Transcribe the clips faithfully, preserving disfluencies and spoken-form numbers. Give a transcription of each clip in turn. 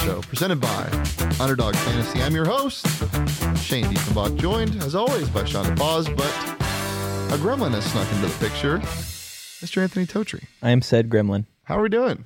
show presented by Underdog Fantasy. I'm your host, Shane Diefenbach, joined, as always, by Sean DePaz, but a gremlin has snuck into the picture, Mister Anthony Totri. I am said gremlin. How are we doing?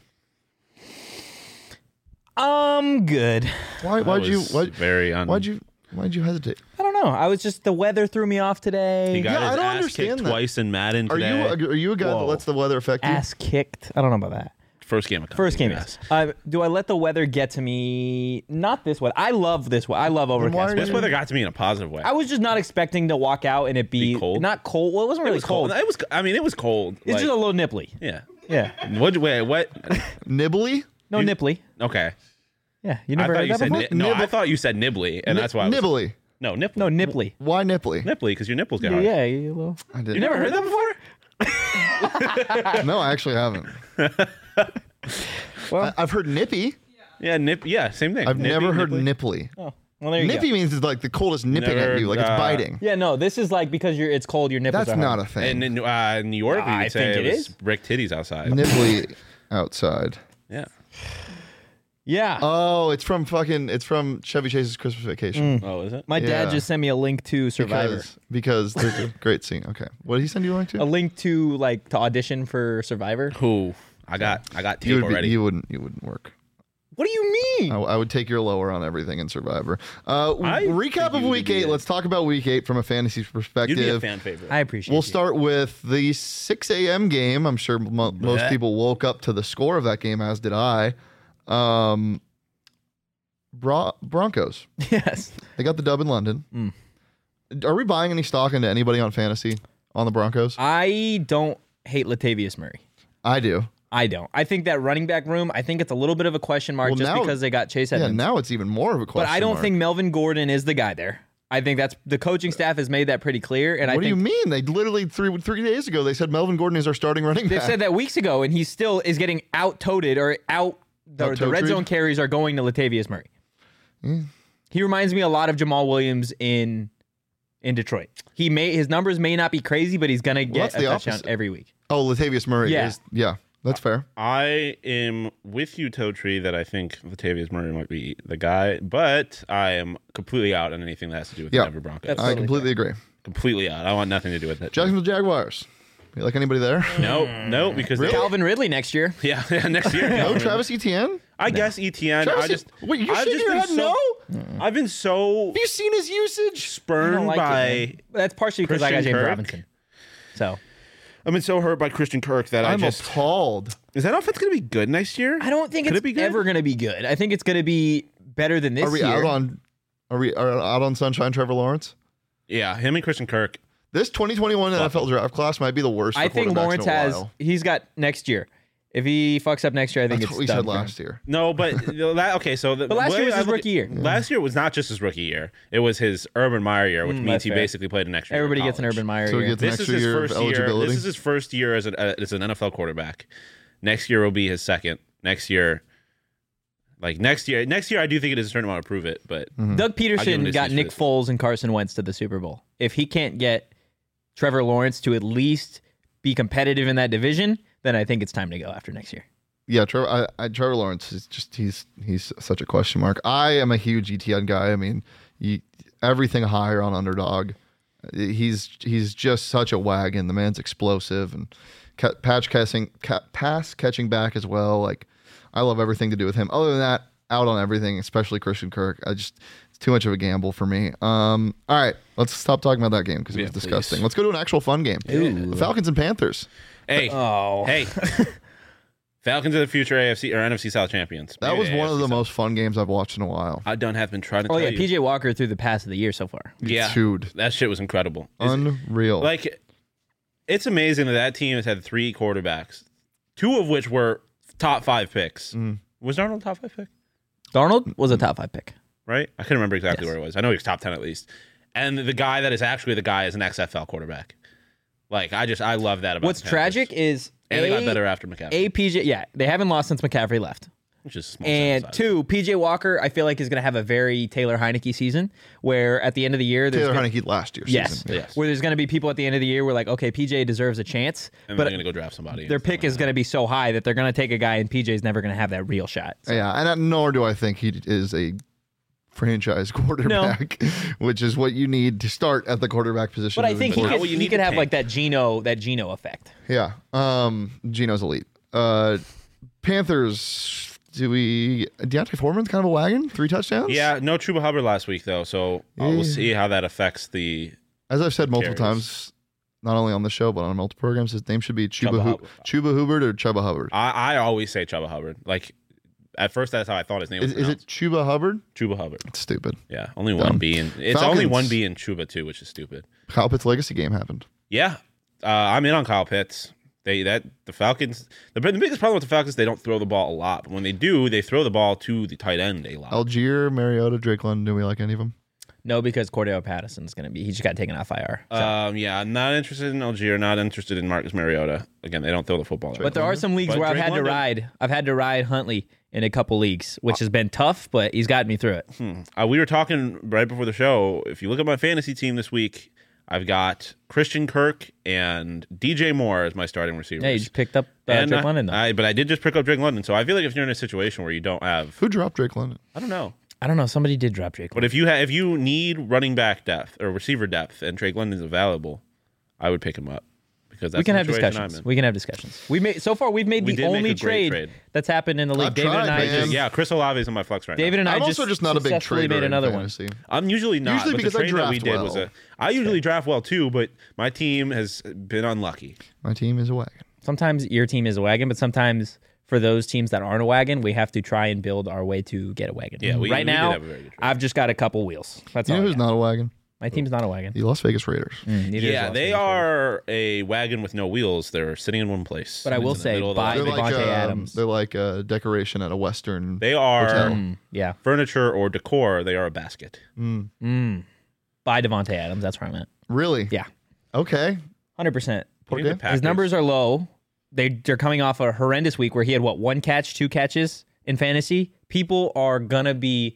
Um, good. Why? Why'd you? Why, very un- why'd you? Why'd you hesitate? I don't know. I was just, the weather threw me off today. He got Yeah, I his don't ass understand kicked that. twice in Madden Are today. you? Are you a guy Whoa. that lets the weather affect you? Ass kicked. I don't know about that. First game of First game, yes. yes. Uh, do I let the weather get to me? Not this weather. I love this weather. I love why overcast are weather. you- This weather got to me in a positive way. I was just not expecting to walk out and it be, Be cold? not cold. Well, it wasn't it really was cold. It was. I mean, it was cold. It's like, just a little nipply. yeah. Yeah. What? Wait. What? Nibbly? No You- nipply. Okay. Yeah. You I never thought heard you that said before? ni- no. I Nibble- thought you said nibbly, and that's why I was, Nibbly. no nipple. No, nipply. Why nipply? nipply because your nipples get Yeah, hard. yeah, you little. I didn't. You never heard that before? No, I actually haven't. Well, I, I've heard nippy. Yeah. Nip. Yeah. Same thing. I've Nippy, never heard nipply. nipply. oh, well, there you Nippy go. means it's like the coldest nipping Never, at you, like it's uh, biting. Yeah, no, this is like because you're. It's cold. Your nipples That's are not hard. a thing. And in uh, New York, we I would say think it it was is. brick titties outside. Nibbly outside. Yeah. Yeah. Oh, it's from fucking. It's from Chevy Chase's Christmas Vacation. Oh, is it? My dad yeah. just sent me a link to Survivor. Because, because there's a great scene. Okay, what did he send you a link A to? link to like to audition for Survivor. Who? I got. I got You tape would be, already. you wouldn't. You wouldn't work. What do you mean? I, I would take your lower on everything in Survivor. Uh, I recap think of you Week would be Eight. good. Let's talk about Week Eight from a fantasy perspective. You'd be a fan favorite. I appreciate. We'll you. start with the six a.m. game. I'm sure mo- most Blech. people woke up to the score of that game, as did I. Um, Bron- Broncos. Yes. They got the dub in London. Mm. Are we buying any stock into anybody on fantasy on the Broncos? I don't hate Latavius Murray. I do. I don't. I think that running back room. I think it's a little bit of a question mark Well, just now- because they got Chase Yeah, Edmonds. now it's even more of a question but I don't mark. think Melvin Gordon is the guy there. I think that's the coaching staff has made that pretty clear. And What I do think you mean? They literally three three days ago they said Melvin Gordon is our starting running they've back. said that weeks ago, and he still is getting out toted or out. The, the red Out-toted? zone carries are going to Latavius Murray. He reminds me a lot of Jamal Williams in in Detroit. He may his numbers may not be crazy, but he's gonna get that's a the touchdown opposite. every week. Oh, Latavius Murray Yeah. is yeah, that's fair. I am with you, Totri, that I think Latavius Murray might be the guy, but I am completely out on anything that has to do with Yeah. the Denver Broncos. That's I totally completely agree. completely out. I want nothing to do with it. Jacksonville Jaguars. You like anybody there? No, no, because Really? they, Calvin Ridley next year. yeah, yeah, next year. No Calvin. Travis Etienne? I guess E T N. Travis I just Wait, you're I've shaking just your been head so, no? I've been so Have you seen his usage? I spurned don't like by. it, man. That's partially because I got Christian James Kirk. Robinson. So I've been so hurt by Christian Kirk that I I'm just appalled. is that offense going to be good next year? I don't think Could it's it be good? ever going to be good. I think it's going to be better than this Are we year. out on are we are out on Sunshine Trevor Lawrence? Yeah, him and Christian Kirk. This twenty twenty-one N F L draft class might be the worst for I think quarterbacks Lawrence in a has. while. He's got next year. If he fucks up next year, I think That's it's what we done said for him. last year. No, but that okay. So the, But last the year way was I his look rookie at- year. Last year was not just his rookie year; it was his Urban Meyer year, which Mm, means that's he fair. basically played an extra. year of Everybody gets an college. Urban Meyer So he year. gets an This is extra his year of first year. eligibility. This is his first year as, a, as an N F L quarterback. Next year will be his second. Next year, like next year, next year I do think it is a certain amount to prove it. But Mm-hmm. Doug I'll give him Peterson this got use Nick for this. Foles and Carson Wentz to the Super Bowl. If he can't get Trevor Lawrence to at least be competitive in that division, then I think it's time to go after next year. Yeah, Trevor, I, I, Trevor Lawrence is just he's he's such a question mark. I am a huge E T N guy. I mean, you, everything higher on underdog. He's he's just such a wagon. The man's explosive and ca- patch catching, ca- pass catching back as well. Like I love everything to do with him. Other than that, out on everything, especially Christian Kirk. I just it's too much of a gamble for me. Um, all right, let's stop talking about that game because it Yeah, was disgusting. please. Let's go to an actual fun game. The Falcons and Panthers. hey, Oh. hey, Falcons are the future A F C or N F C South champions. That Maybe was one of A F C the South. most fun games I've watched in a while. I don't have been trying to Oh tell yeah, you. P J Walker threw the pass of the year so far. Yeah, Dude. that shit was incredible. Is- Unreal. Like, it's amazing that that team has had three quarterbacks, two of which were top five picks. Mm. Was Darnold a top five pick? Darnold was a top five pick. Right? I couldn't remember exactly Yes. where it was. I know he was top ten at least. And the guy that is actually the guy is an X F L quarterback. Like, I just, I love that about What's the Panthers. tragic is And they got A- better after McCaffrey. A P J, yeah, they haven't lost since McCaffrey left. Which is small And sample size. two, P J Walker, I feel like is going to have a very Taylor Heineke season, where at the end of the year, there's Taylor gonna, Heineke last year's yes, season. Yes. where there's going to be people at the end of the year where like, okay, P J deserves a chance, And but they're going to go draft somebody. their pick is going to be so high that they're going to take a guy, and P J's never going to have that real shot. So, Yeah, and uh, nor do I think he is a franchise quarterback, which is what you need to start at the quarterback position. but I moving think he Not forward. could, what you he need could to have tank. like that Geno that Geno effect. Yeah. Um, Gino's elite. Uh, Panthers. Do we? Deontay Foreman's kind of a wagon. Three touchdowns. Yeah, no Chuba Hubbard last week, though. So uh, Yeah. we'll see how that affects the. As I've said multiple Carries. times, not only on the show but on multiple programs, his name should be Chuba Chuba Hu- Hubbard. Chuba Hubbard or Chuba Hubbard. I, I always say Chuba Hubbard. Like, at first, that's how I thought his name was. Is, is it pronounced. Chuba Hubbard? Chuba Hubbard? It's stupid. Yeah, only Dumb. one B. And it's Falcons. only one B in Chuba, too, which is stupid. Kyle Pitts' legacy game happened. Yeah, uh, I'm in on Kyle Pitts. They that the Falcons. The, the biggest problem with the Falcons, they don't throw the ball a lot. But when they do, they throw the ball to the tight end a lot. Algier, Mariota, Drake London. Do we like any of them? No, because Cordell Patterson's going to be, he just got taken off I R. So. Um, yeah, not interested in Algier. Not interested in Marcus Mariota. Again, they don't throw the football. But there are some leagues But where I've Drake had London- to ride. I've had to ride Huntley in a couple leagues, which has been tough, but he's gotten me through it. Hmm. Uh, we were talking right before the show. If you look at my fantasy team this week, I've got Christian Kirk and D J Moore as my starting receivers. Yeah, you just picked up uh, and Drake I- London. Though. I, but I did just pick up Drake London. So I feel like if you're in a situation where you don't have, Who dropped Drake London? I don't know. I don't know. Somebody did drop Drake. But if you have, if you need running back depth or receiver depth, and Drake London's available, I would pick him up because that's we can the have situation discussions. I'm in. We can have discussions. We made so far. We've made We the did make only a great trade, trade. that's happened in the league. I've David tried, and I man. just. Yeah, Chris Olave is on my flex right David now. and I I'm just also just not a big successfully trader made in another one. fantasy. I'm usually not. Usually but because the I trade that we draft did was well. a. I usually draft well too, but my team has been unlucky. My team is a wagon. Sometimes your team is a wagon, but sometimes for those teams that aren't a wagon, we have to try and build our way to get a wagon. Yeah, we- right we did now, have a very good trade. I've just got a couple wheels. That's You all. know I who's got. not a wagon? My team's not a wagon. The Las Vegas Raiders. Mm, neither is Yeah, Las they Vegas. are a wagon with no wheels. They're sitting in one place. But I will In the say, middle of the buy lot. They're like Devontae um, Adams. they're like a decoration at a Western. They are Hotel. Mm, yeah. furniture or decor. They are a basket. Mm. Buy Devontae Adams. That's where I'm at. Really? Yeah. Okay. one hundred percent. Okay. Even the His Packers. numbers are low. They, they're coming off a horrendous week where he had, what, one catch, two catches in fantasy? People are going to be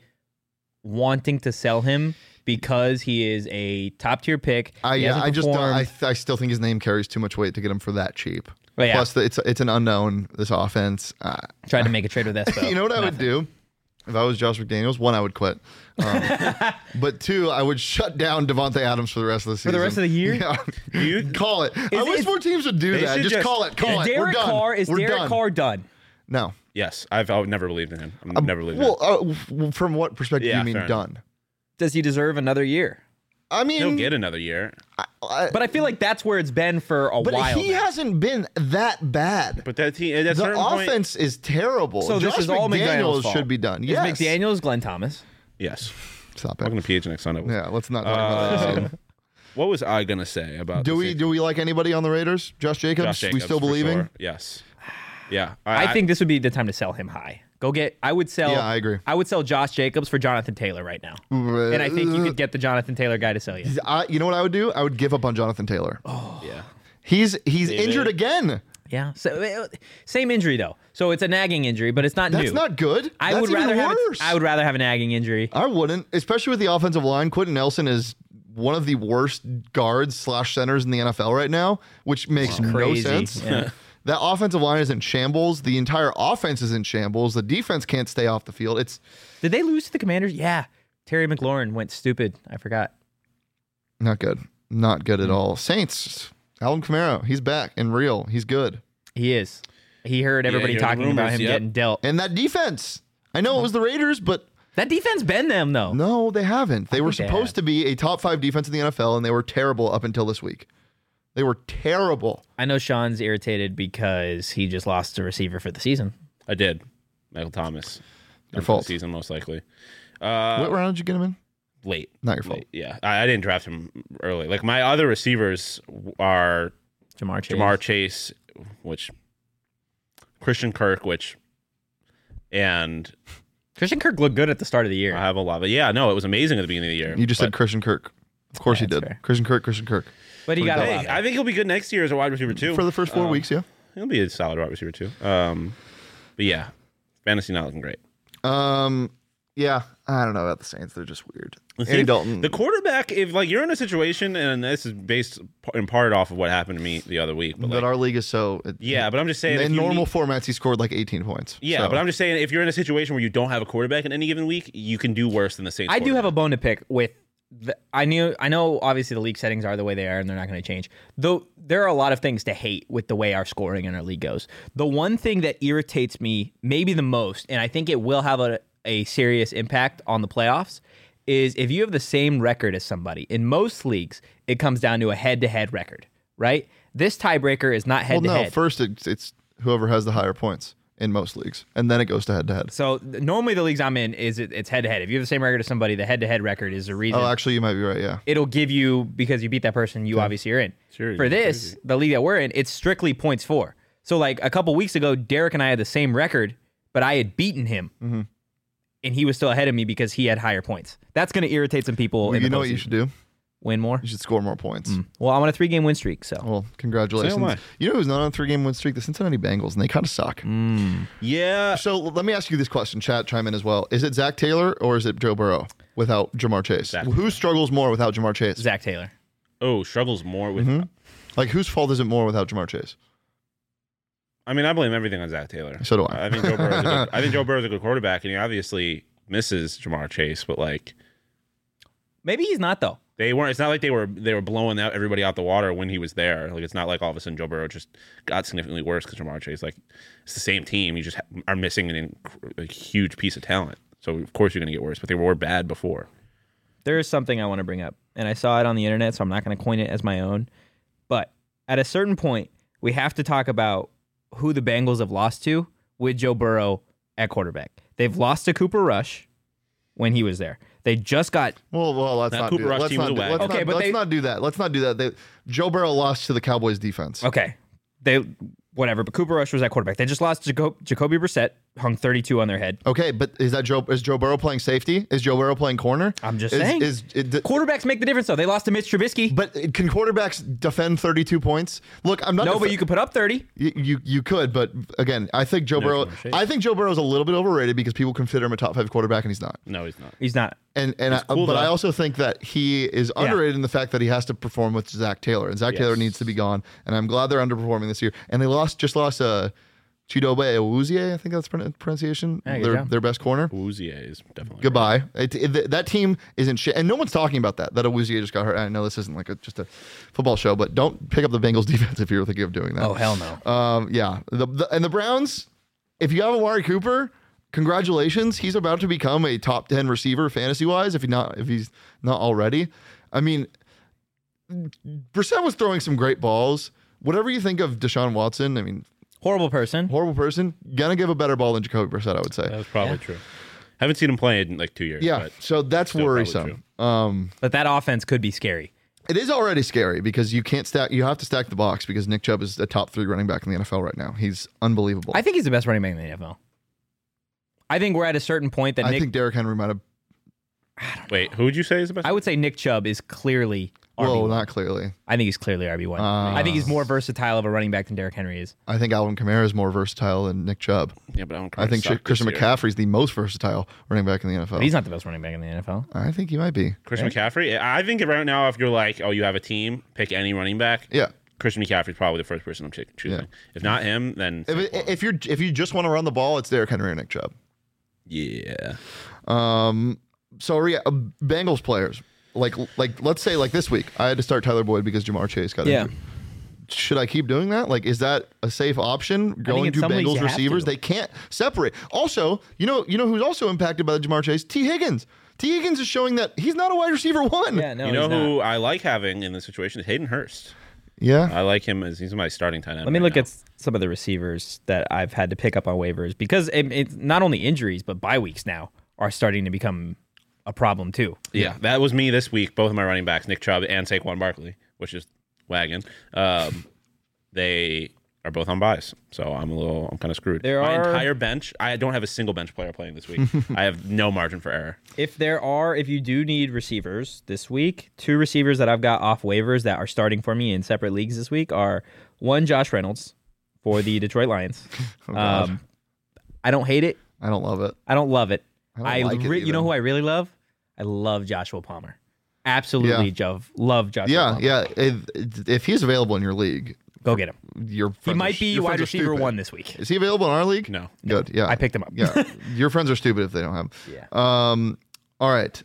wanting to sell him because he is a top-tier pick. I He yeah, hasn't I just don't, performed. I th- I still think his name carries too much weight to get him for that cheap. But yeah. Plus, the, it's it's an unknown. This offense. Uh, Tried to make a trade with Espo. you know what I would do if I was Josh McDaniels? One, I would quit. Um, but two, I would shut down Devontae Adams for the rest of the season. the rest of the year? Yeah. You- call it. I wish is- more teams would do They that. should Just, just- call it. Call Is it. We're Derek done. Carr, is We're Derek done. Carr done? No. Yes, I've, I've never believed in him. I've never believed in Well, him. uh, w- from what perspective Yeah, do you fair mean done? Does he deserve another year? I mean, He'll get another year. I- But I feel like that's where it's been for a but while he now. hasn't been that bad. But that team, at a The certain point, offense is terrible. So this Josh is all McDaniels' McDaniels fault. should be done. Is Yes. McDaniels Glenn Thomas? yes. Stop Welcome it. to P H N X Sunday. Yeah, let's not talk about that. Uh, soon. what was I gonna say about? Do the we Saints? do we like anybody on the Raiders? Josh Jacobs? Josh Jacobs we still for believing? sure. Yes. Yeah. I, think this would be the time to sell him high. Go get. I would sell. Yeah, I agree. I would sell Josh Jacobs for Jonathan Taylor right now, and I think you could get the Jonathan Taylor guy to sell you. I, you know what I would do? I would give up on Jonathan Taylor. Yeah. He's he's David? injured again. Yeah. So uh, same injury though. So it's a nagging injury, but it's not That's new. not good. I That's would even rather have. worse. A, I would rather have a nagging injury. I wouldn't, especially with the offensive line. Quentin Nelson is one of the worst guards slash centers in the N F L right now, which makes no Crazy. sense. Yeah. That offensive line is in shambles. The entire offense is in shambles. The defense can't stay off the field. It's Did they lose to the Commanders? Yeah. Terry McLaurin went stupid. I forgot. not good. Not good at all. Saints, Alvin Kamara, he's back and real. He's good. He is. He heard everybody you heard the talking about rumors, him yep. getting dealt. And that defense. I know it was the Raiders, but That defense been them though. no, they haven't. They were think they supposed have. to be a top five defense in the N F L, and they were terrible up until this week. They were terrible. I know Sean's irritated because he just lost a receiver for the season. I did. Michael Thomas. Your Done for fault. the season, most likely. Uh, what round did you get him in? late. Not your fault. Late, yeah, I, I didn't draft him early. Like my other receivers are Jamar Chase. Jamar Chase, which Christian Kirk, which and Christian Kirk looked good at the start of the year. I have a lot. But yeah, no, it was amazing at the beginning of the year. You just but, said Christian Kirk. Of course Yeah, he did. that's fair. Christian Kirk, Christian Kirk. but he got a Hey, lot. I think he'll be good next year as a wide receiver too. For the first four Um, weeks, yeah. He'll be a solid wide receiver too. Um, but yeah, Fantasy not looking great. Um, yeah, I don't know about the Saints. They're just weird. The Andy thing- Dalton. The quarterback, if like you're in a situation, and this is based in part off of what happened to me the other week, but but like, our league is so. It, yeah, but I'm just saying, if in you normal need- formats, he scored like eighteen points. yeah, so. but I'm just saying, if you're in a situation where you don't have a quarterback in any given week, you can do worse than the Saints. I do have a quarterback. bone to pick with. The, I knew. I know. Obviously, the league settings are the way they are, and they're not going to change. Though there are a lot of things to hate with the way our scoring in our league goes. The one thing that irritates me, maybe the most, and I think it will have a, a serious impact on the playoffs, is if you have the same record as somebody. In most leagues, it comes down to a head-to-head record, right? This tiebreaker is not well, head-to-head. no. First, it's, it's whoever has the higher points in most leagues, and then it goes to head to head. So th- normally the leagues I'm in is it, it's head-to-head. If you have the same record as somebody, the head-to-head record is the reason. Oh, actually, you might be right. Yeah. It'll give you, because you beat that person, you obviously are in. Sure, For yeah, this, crazy. the league that we're in, it's strictly points for. So like a couple weeks ago, Derek and I had the same record, but I had beaten him. Mm-hmm. And he was still ahead of me because he had higher points. That's going to irritate some people. Well, in you the know what you postseason. should do? Win more? You should score more points. Well, I'm on a three-game win streak, so. Well, congratulations. So am I. You know who's not on a three-game win streak? The Cincinnati Bengals, and they kind of suck. Mm. Yeah, So let me ask you this question. Chat, chime in as well. Is it Zach Taylor or is it Joe Burrow without Jamar Chase? Zach. Who struggles more without Jamar Chase? Zach Taylor. oh, struggles more with. Mhm. Like, whose fault is it more without Jamar Chase? I mean, I blame everything on Zach Taylor. So do I. I think Joe Burrow's a good, I think Joe Burrow's a good quarterback, and he obviously misses Jamar Chase, but like Maybe he's not, though. they weren't. It's not like they were they were blowing out everybody out the water when he was there. Like it's not like all of a sudden Joe Burrow just got significantly worse because Jamar Chase. Like it's the same team. You just ha- are missing an inc- a huge piece of talent. So of course you're going to get worse. But they were bad before. There is something I want to bring up, and I saw it on the internet, so I'm not going to coin it as my own. But at a certain point, we have to talk about who the Bengals have lost to with Joe Burrow at quarterback. They've lost to Cooper Rush when he was there. They just got Well, well, let's That not Cooper do Rush let's team not was do, a let's wagon. Okay, not, but let's they- not do that. Let's not do that. They, Joe Burrow lost to the Cowboys defense. okay. They whatever, but Cooper Rush was at quarterback. They just lost Jaco- Jacoby Brissett, hung thirty-two on their head. Okay, but is that Joe? Is Joe Burrow playing safety? Is Joe Burrow playing corner? I'm just is, saying. Is, it, the- Quarterbacks make the difference, though. They lost to Mitch Trubisky. but can quarterbacks defend thirty-two points? Look, I'm not. no, def- but you could put up thirty. You, you you could, but again, I think Joe Burrow. Jamar Chase. I think Joe Burrow's a little bit overrated because people consider him a top five quarterback, and he's not. No, he's not. He's not. And and I, cool, but though. I also think that he is Yeah. underrated in the fact that he has to perform with Zach Taylor, and Zach Yes. Taylor needs to be gone. And I'm glad they're underperforming this year. And they lost, just lost uh, Chidobe Awuzie, I think that's the pronunciation. Yeah, good their job. their best corner. Uzier is definitely Goodbye. It, it, that team isn't shit, and no one's talking about that. That Awuzie just got hurt. I know this isn't like a, just a football show, but don't pick up the Bengals defense if you're thinking of doing that. Oh, hell no. Um, yeah, the, the and the Browns. If you have Amari Cooper, congratulations. He's about to become a top ten receiver fantasy wise. If he not, if he's not already. I mean, Brissett was throwing some great balls. Whatever you think of Deshaun Watson, I mean, Horrible person. horrible person. Gonna give a better ball than Jacoby Brissett, I would say. That was probably Yeah. true. Haven't seen him play in like two years. Yeah, but so that's still probably worrisome. Um, But that offense could be scary. it is already scary because you can't stack. You have to stack the box because Nick Chubb is a top three running back in the N F L right now. He's unbelievable. I think he's the best running back in the N F L. I think we're at a certain point that I Nick. think Derrick Henry might have. Wait, who would you say is the best? I would say Nick Chubb is clearly R B one. Well, not clearly. I think he's clearly R B one. Uh, I think he's more versatile of a running back than Derrick Henry is. I think Alvin Kamara is more versatile than Nick Chubb. yeah, but I, don't I think suck Christian this year. McCaffrey is the most versatile running back in the N F L. But he's not the best running back in the N F L. I think he might be. Christian McCaffrey. I think right now, if you're like, oh, you have a team, pick any running back. Yeah. Christian McCaffrey is probably the first person I'm ch- choosing. Yeah. If not him, then If, it, if you're if you just want to run the ball, it's Derrick Henry or Nick Chubb. yeah. Um. So yeah, uh, Bengals players like like let's say like this week, I had to start Tyler Boyd because Jamar Chase got Yeah. injured. Should I keep doing that? Like, is that a safe option? Going in to some leagues Bengals you have receivers, to. they can't separate. Also, you know, you know who's also impacted by the Jamar Chase? T. Higgins. T. Higgins is showing that he's not a wide receiver one. Yeah, no, you know he's not. who I like having in this situation is Hayden Hurst. Yeah. I like him as he's my starting tight end. Let me right look now. at some of the receivers that I've had to pick up on waivers because it, it's not only injuries, but bye weeks now are starting to become a problem too. Yeah, that was me this week. Both of my running backs, Nick Chubb and Saquon Barkley, which is wagon. Um, they are both on buys, so I'm a little, I'm kind of screwed. There my are- entire bench. I don't have a single bench player playing this week. I have no margin for error. If there are, if you do need receivers this week, two receivers that I've got off waivers that are starting for me in separate leagues this week are one, Josh Reynolds for the Detroit Lions. Oh, God. um, I don't hate it. I don't love it. I don't love it. I don't I, like it re- you know even. who I really love? I love Joshua Palmer. Absolutely, Yeah. Joe. Love Joshua Yeah, Palmer. yeah. If, if he's available in your league, Go get him. your He friends might are- be your wide friends are receiver stupid. one this week. Is he available in our league? No. Good. Yeah. I picked him up. Yeah. Your friends are stupid if they don't have him. Yeah. Um. All right.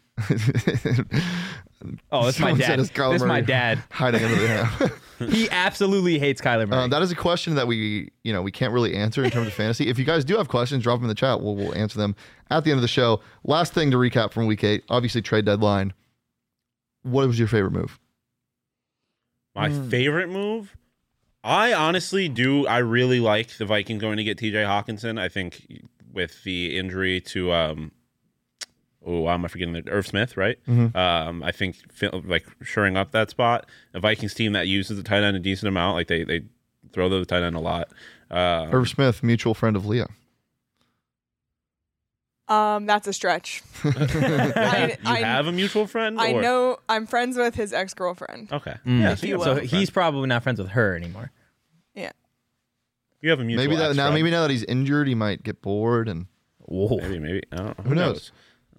Oh, that's my Someone said dad. it's Kyler That's my Murray dad. hiding under the hat. He absolutely hates Kyler Murray. Uh, that is a question that we, you know, we can't really answer in terms of fantasy. If you guys do have questions, drop them in the chat. We'll, we'll answer them at the end of the show. Last thing to recap from week eight, obviously trade deadline. What was your favorite move? My Hmm. favorite move? I honestly do. I really like the Vikings going to get T J Hawkinson. I think with the injury to, um, oh, why am I forgetting the Irv Smith, right? Mhm. Um, I think fi- like shoring up that spot. A Vikings team that uses the tight end a decent amount. Like they they throw the tight end a lot. Um, Irv Smith, mutual friend of Leah. Um, that's a stretch. I, you I, have a mutual friend? I or- know I'm friends with his ex girlfriend. Okay. Mm. Yeah. If So you you, will. so have a he's friend. probably not friends with her anymore. Yeah. you have a mutual Maybe that now. ex-friend. Maybe now that he's injured, he might get bored and Whoa. Maybe, maybe. I don't know. Who knows?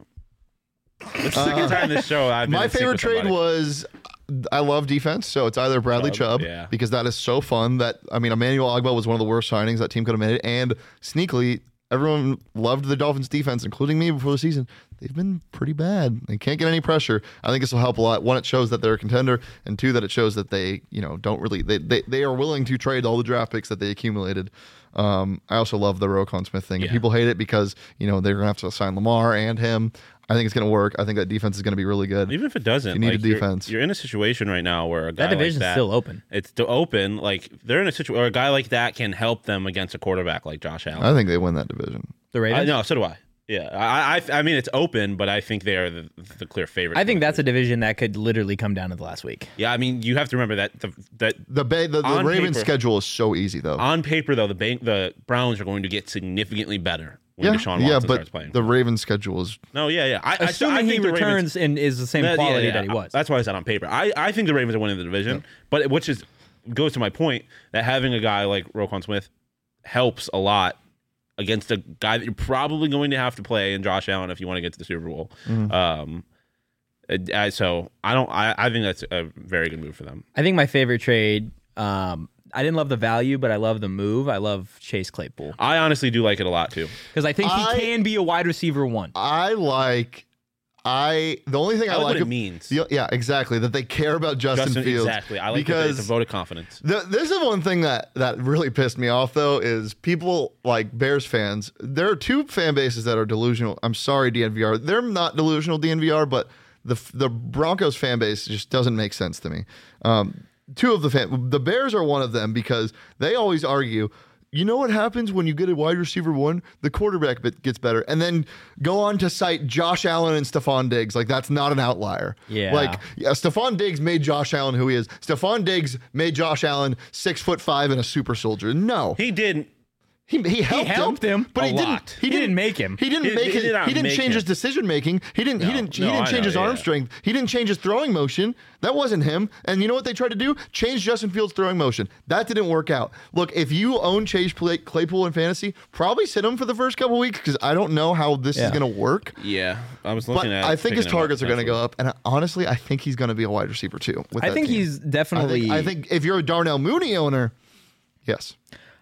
It's the second time this show I've been my in sync favorite with trade somebody. was I love defense, so it's either Bradley Chubb, Chubb, yeah. because that is so fun. That I mean, Emmanuel Ogbah was one of the worst signings that team could have made, and sneakily, everyone loved the Dolphins defense, including me before the season. They've been pretty bad. They can't get any pressure. I think this will help a lot. One, it shows that they're a contender, and two, that it shows that they, you know, don't really they they, they are willing to trade all the draft picks that they accumulated. Um, I also love the Roquan Smith thing. Yeah. People hate it because you know they're gonna have to sign Lamar and him. I think it's gonna work. I think that defense is gonna be really good. Even if it doesn't, You need like, a you're- defense. You're, in a situation right now where a guy That division's like that, still open. It's still open. Like they're in a situation, or a guy like that can help them against a quarterback like Josh Allen. I think they win that division. The I, Ravens? no, so do I. Yeah, I, I, I mean, it's open, but I think they are the, the clear favorite. I think that's a division that could literally come down to the last week. Yeah, I mean, you have to remember that the, that The Bay, the, the On Ravens paper- schedule is so easy though. on paper though, the bank, the Browns are going to get significantly better when yeah, Deshaun Watson yeah, starts but playing. the Ravens schedule is no, yeah, yeah. I, I, Assuming I think he the Ravens, returns and is the same Yeah, yeah, quality yeah. that he was. That's why I said on paper. I, I think the Ravens are winning the division, but which is goes to my point that having a guy like Roquan Smith helps a lot against a guy that you're probably going to have to play in Josh Allen if you want to get to the Super Bowl. Mm-hmm. Um, it- I- so I don't. I, I think that's a very good move for them. I think my favorite trade, um, I didn't love the value, but I love the move. I love Chase Claypool. I honestly do like it a lot too. Because I think he I- can be a wide receiver one. I like I the only thing I, I like like what it ab- means. the- yeah, exactly. That they care about Justin, Justin, Fields. exactly. I like that because it's a vote of confidence. The, this is one thing that that really pissed me off though is people like Bears fans. There are two fan bases that are delusional. I'm sorry, D N V R. They're not delusional D N V R, but the the Broncos fan base just doesn't make sense to me. Um, two of the fan, the Bears are one of them because they always argue. You know what happens when you get a wide receiver one? The quarterback bit gets better, and then go on to cite Josh Allen and Stephon Diggs. Like that's not an outlier. Yeah. Like yeah, Stephon Diggs made Josh Allen who he is. Stephon Diggs made Josh Allen six foot five and a super soldier. No, He didn't. he he helped, helped him but a he lot. didn't. He didn't make him. He didn't He- make he his, did not He didn't make change his him. decision making. He didn't. he No. didn't. He No, didn't I change know, his arm yeah. strength. He didn't change his throwing motion. That wasn't him. And you know what they tried to do? Change Justin Fields' throwing motion. That didn't work out. Look, if you own Chase Clay- Claypool in fantasy, probably sit him for the first couple weeks because I don't know how this is Yeah. going to work. Yeah, I was But looking at. I think his picking him up targets are going to go potentially. up, and honestly, I think he's going to be a wide receiver too. With I that think team. he's I definitely. think, I think if you're a Darnell Mooney owner, yes.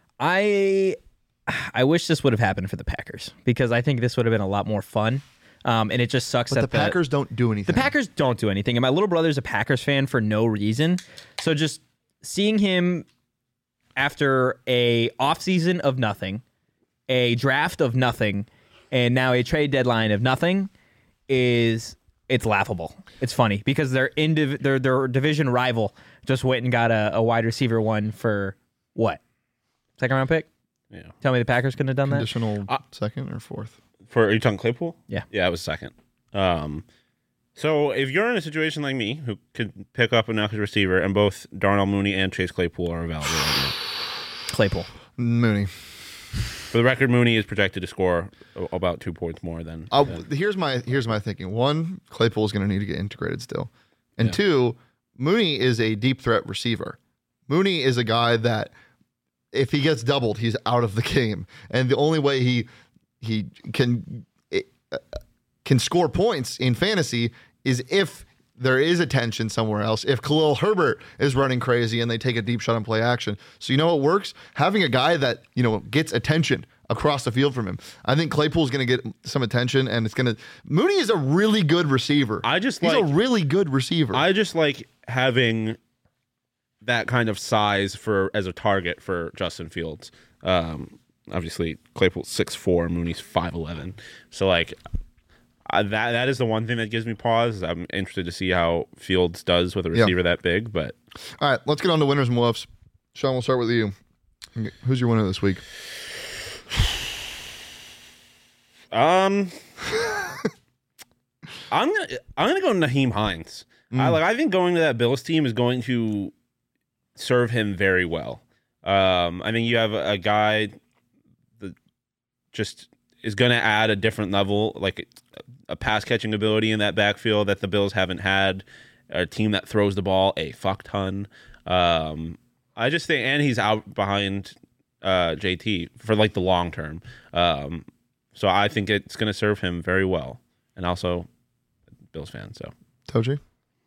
I I wish this would have happened for the Packers because I think this would have been a lot more fun. Um, and it just sucks But that the Packers don't do anything. The Packers don't do anything. And my little brother's a Packers fan for no reason. So just seeing him after a offseason of nothing, a draft of nothing, and now a trade deadline of nothing is it's laughable. It's funny because their indiv- their their division rival just went and got a, a wide receiver one for what? Second round pick? Yeah. Tell me the Packers couldn't have done that? Conditional Uh, second or fourth. For are you talking Claypool? Yeah. Yeah, it was second. Um, so if you're in a situation like me, who could pick up an extra receiver, and both Darnell Mooney and Chase Claypool are available, right now. Claypool. Mooney. For the record, Mooney is projected to score a- about two points more than. Uh, than- here's my here's my thinking. One, Claypool is going to need to get integrated still, and Yeah. two, Mooney is a deep threat receiver. Mooney is a guy that if he gets doubled, he's out of the game, and the only way he he can uh, can score points in fantasy is if there is attention somewhere else. If Khalil Herbert is running crazy and they take a deep shot and play action. So you know what works? Having a guy that, you know, gets attention across the field from him. I think Claypool's going to get some attention, and it's going to Mooney is a really good receiver. I just He's like, a really good receiver. I just like having that kind of size for as a target for Justin Fields. Um, obviously Claypool's six four, Mooney's five eleven. So like Uh, that that is the one thing that gives me pause. I'm interested to see how Fields does with a receiver yeah. that big. But all right, let's get on to winners and woofs. Sean, we'll start with you. Who's your winner this week? Um, I'm gonna I'm gonna go Nyheim Hines. Mm. I like. I think going to that Bills team is going to serve him very well. Um, I think you have a, a guy that just is going to add a different level, like a, a pass catching ability in that backfield that the Bills haven't had. A team that throws the ball a fuck ton. Um, I just think, and he's out behind uh, J T for like the long term. Um, so I think it's going to serve him very well, and also Bills fan. So Toji,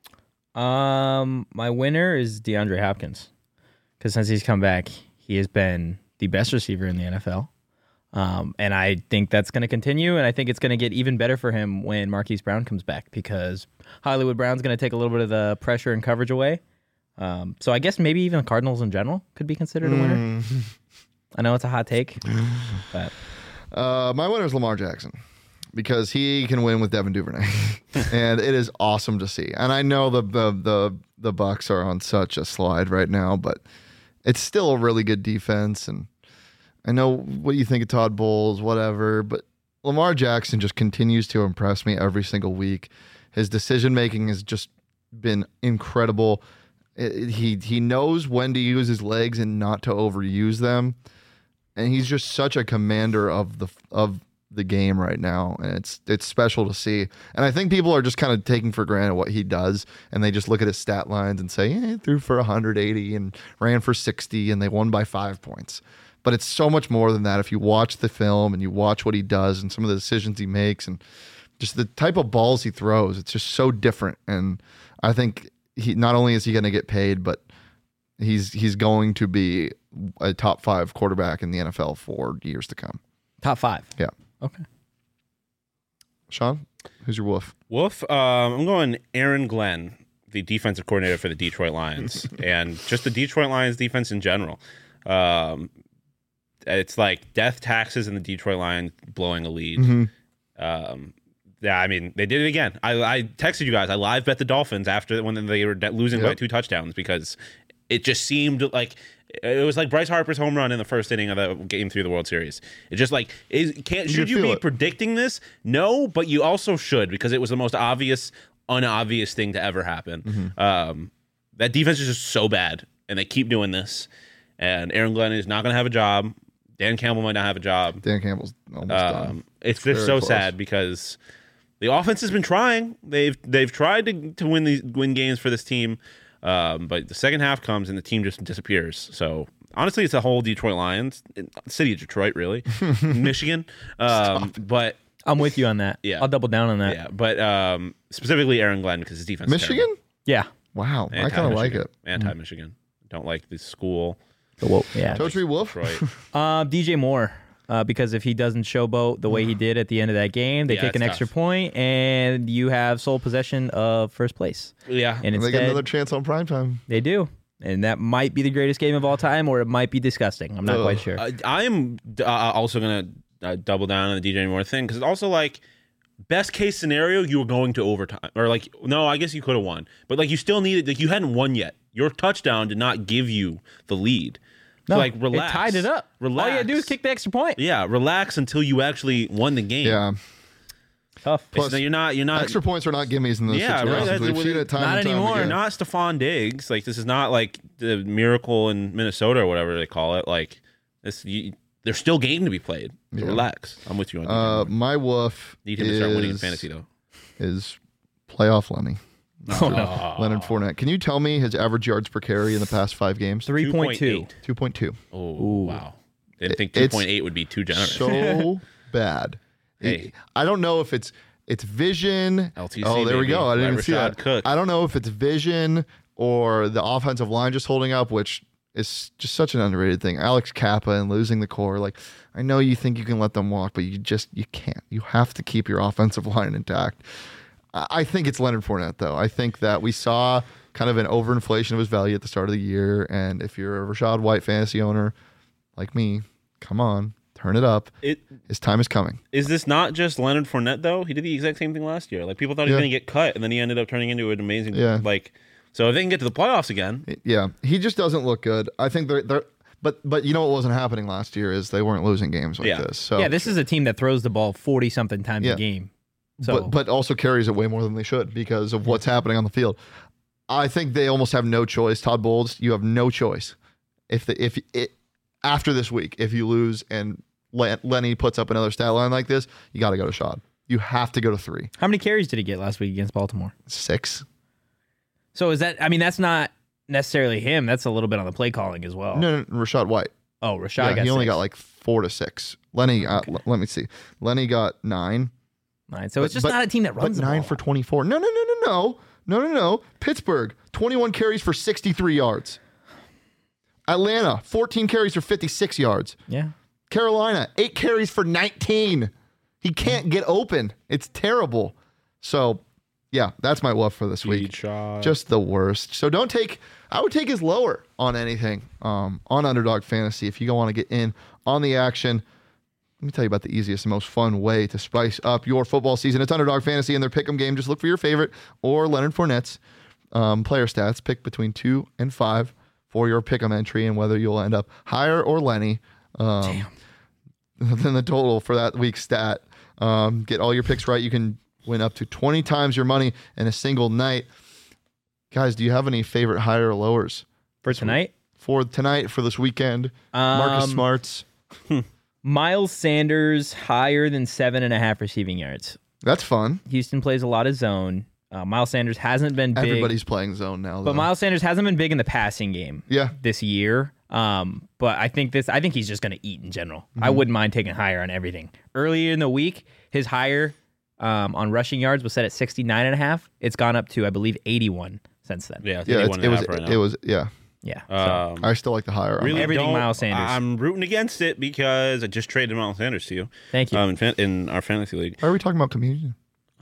um, my winner is DeAndre Hopkins, because since he's come back, he has been the best receiver in the N F L. Um, and I think that's going to continue, and I think it's going to get even better for him when Marquise Brown comes back, because Hollywood Brown's going to take a little bit of the pressure and coverage away. Um, so I guess maybe even the Cardinals in general could be considered a winner. Mm. I know it's a hot take, but uh, my winner is Lamar Jackson, because he can win with Devin Duvernay, and it is awesome to see. And I know the the the the Bucs are on such a slide right now, but it's still a really good defense. And I know what you think of Todd Bowles, whatever, but Lamar Jackson just continues to impress me every single week. His decision making has just been incredible. It, he he knows when to use his legs and not to overuse them, and he's just such a commander of the of the game right now, and it's it's special to see. And I think people are just kind of taking for granted what he does, and they just look at his stat lines and say, eh, he threw for one hundred eighty and ran for sixty, and they won by five points. But it's so much more than that. If you watch the film and you watch what he does and some of the decisions he makes and just the type of balls he throws, it's just so different. And I think he not only is he going to get paid, but he's he's going to be a top five quarterback in the N F L for years to come. Top five? Yeah. Okay. Sean, who's your wolf? Wolf, um, I'm going Aaron Glenn, the defensive coordinator for the Detroit Lions, and just the Detroit Lions defense in general. Um, It's like death taxes and the Detroit Lions blowing a lead. Mm-hmm. Um, yeah, I mean, they did it again. I, I texted you guys. I live bet the Dolphins after when they were losing yep. by two touchdowns, because it just seemed like it was like Bryce Harper's home run in the first inning of the game three of the World Series. It's just like, is, can't should you, you be it. predicting this? No, but you also should, because it was the most obvious, unobvious thing to ever happen. Mm-hmm. Um, that defense is just so bad, and they keep doing this. And Aaron Glenn is not going to have a job. Dan Campbell might not have a job. Dan Campbell's almost um, done. It's just so close. sad, because the offense has been trying. They've they've tried to to win these win games for this team, um, but the second half comes and the team just disappears. So honestly, it's a whole Detroit Lions, city of Detroit, really, Michigan. Um, but I'm with you on that. Yeah, I'll double down on that. Yeah, but um, specifically Aaron Glenn, because his defense. Michigan. Is terrible. Yeah. Wow, Anti- I kind of like it. Anti-Michigan. Mm. Don't like the school. Well, yeah. Totri Wolf. Right. uh, D J Moore, uh, because if he doesn't showboat the way he did at the end of that game, they yeah, take an extra tough. point, and you have sole possession of first place. Yeah. And they instead, get another chance on primetime. They do. And that might be the greatest game of all time, or it might be disgusting. I'm not Ugh. quite sure. I, I am uh, also going to uh, double down on the D J Moore thing, because it's also like, best case scenario, you were going to overtime. Or like, no, I guess you could have won. But like, you still needed, like, you hadn't won yet. Your touchdown did not give you the lead. So no, like, relax. It tied it up. Relax. All you had to do is kick the extra point. Yeah, relax until you actually won the game. Yeah. Tough. Plus, you're not, you're not. Extra points are not gimmies in those Yeah, situations. right. We've seen it time Not and time anymore. again. You're not Stephon Diggs. Like, this is not like the miracle in Minnesota or whatever they call it. Like, this, you, there's still game to be played. So Yeah. relax. I'm with you on that. Uh, my wolf Need him is, to start winning in fantasy, though. is playoff Lenny. Oh. Leonard Fournette. Can you tell me his average yards per carry in the past five games? three point two. two point two. Oh, wow. Didn't think It's two point eight would be too generous. So bad. Hey. I don't know if it's it's vision. L T C, oh, there we baby. go. I didn't Let even see Rashad that. cook. I don't know if it's vision or the offensive line just holding up, which is just such an underrated thing. Alex Kappa and losing the core. Like, I know you think you can let them walk, but you just you can't. You have to keep your offensive line intact. I I think it's Leonard Fournette, though. I think that we saw kind of an overinflation of his value at the start of the year, and if you're a Rashad White fantasy owner like me, come on, turn it up. It His time is coming. is this not just Leonard Fournette though? He did the exact same thing last year. Like people thought he was Yeah. going to get cut, and then he ended up turning into an amazing. Yeah. Like, so if they can get to the playoffs again, Yeah, he just doesn't look good. I think they're they're. But but you know what wasn't happening last year is they weren't losing games like Yeah. this. So Yeah, this is a team that throws the ball forty something times Yeah. a game. So but but also carries it way more than they should because of what's happening on the field. I think they almost have no choice. Todd Bowles, you have no choice. If the if it after this week, if you lose and Len, Lenny puts up another stat line like this, you got to go to Shad. You have to go to three, how many carries did he get last week against Baltimore? six. So is that? I mean, that's not necessarily him. That's a little bit on the play calling as well. No, no, Rashad White. Oh, Rashad Yeah, got he only six. got like four to six. Lenny, uh, l- let me see. Lenny got nine. Nine. So it's But- just but- not a team that But runs the nine ball. for twenty-four. No, no, no, no, no. No, no, no. Pittsburgh, twenty-one carries for sixty-three yards. Atlanta, fourteen carries for fifty-six yards. Yeah. Carolina, eight carries for nineteen. He can't get open. It's terrible. So, yeah, that's my love for this week. shot. Just the worst. So don't take, I would take his lower on anything um, on Underdog Fantasy if you want to get in on the action. Let me tell you about the easiest and most fun way to spice up your football season. It's Underdog Fantasy and their pick'em game. Just look for your favorite or Leonard Fournette's um, player stats. Pick between two and five for your pick'em entry and whether you'll end up higher or Lenny um, than the total for that week's stat. Um, get all your picks right. You can win up to twenty times your money in a single night. Guys, do you have any favorite higher or lowers For tonight, for tonight, for this weekend? Marcus Um, Smarts. Miles Sanders higher than seven and a half receiving yards. That's fun. Houston plays a lot of zone. Uh, Miles Sanders hasn't been big, Everybody's playing zone now. but though. Miles Sanders hasn't been big in the passing game yeah. this year. Um, but I think this, I think he's just going to eat in general. I Mm-hmm. wouldn't mind taking higher on everything. Earlier in the week, his higher um, on rushing yards was set at sixty-nine and a half. It's gone up to, I believe, eighty-one since then. yeah, it's Yeah, eighty-one it's, it and a was. half right It now. was. Yeah. Yeah. So, Um, I still like the higher. on really that. Everything don't- Miles Sanders. I'm rooting against it because I just traded Miles Sanders to you. thank you. Um, in, fan- in our fantasy league. Why are we talking about communion?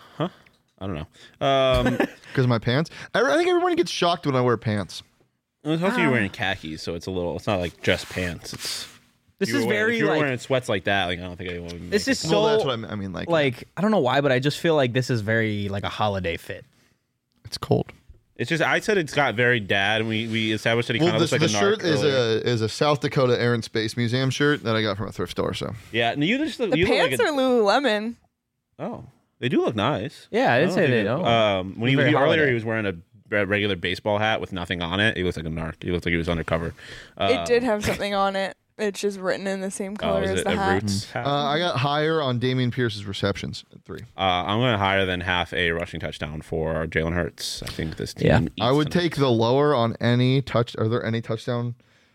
I don't know. Um, Because of my pants. I, I think everyone gets shocked when I wear pants. it's also you're wearing khakis, so it's a little. It's not like just pants. It's this if you is were wearing- very if you were like, wearing sweats like that. Like I don't think anyone would. This make is it. so- well, that's what I mean. I mean, like, like, I don't know why, but I just feel like this is very like a holiday fit. it's cold. It's just I said it's got very dad, and we we established that he Well, kind of this, looks like the a shirt narc is earlier. a is a South Dakota Air and Space Museum shirt that I got from a thrift store. So Yeah, and you just look, The you look pants like a, are Lululemon. oh, they do look nice. Yeah, I didn't don't say think they it- don't. Um, when he, Very he earlier, holiday. he was wearing a re- regular baseball hat with nothing on it. He looks like a narc. He looked like he was undercover. Uh, It did have something on it. It's just written in the same oh, color is as it the a hat. Roots hat? uh, I got higher on Damian Pierce's receptions at three. Uh, I'm going to higher than half a rushing touchdown for Jalen Hurts. I think this team. Yeah. eats I would tonight. take the lower on any touch. Are there any touchdown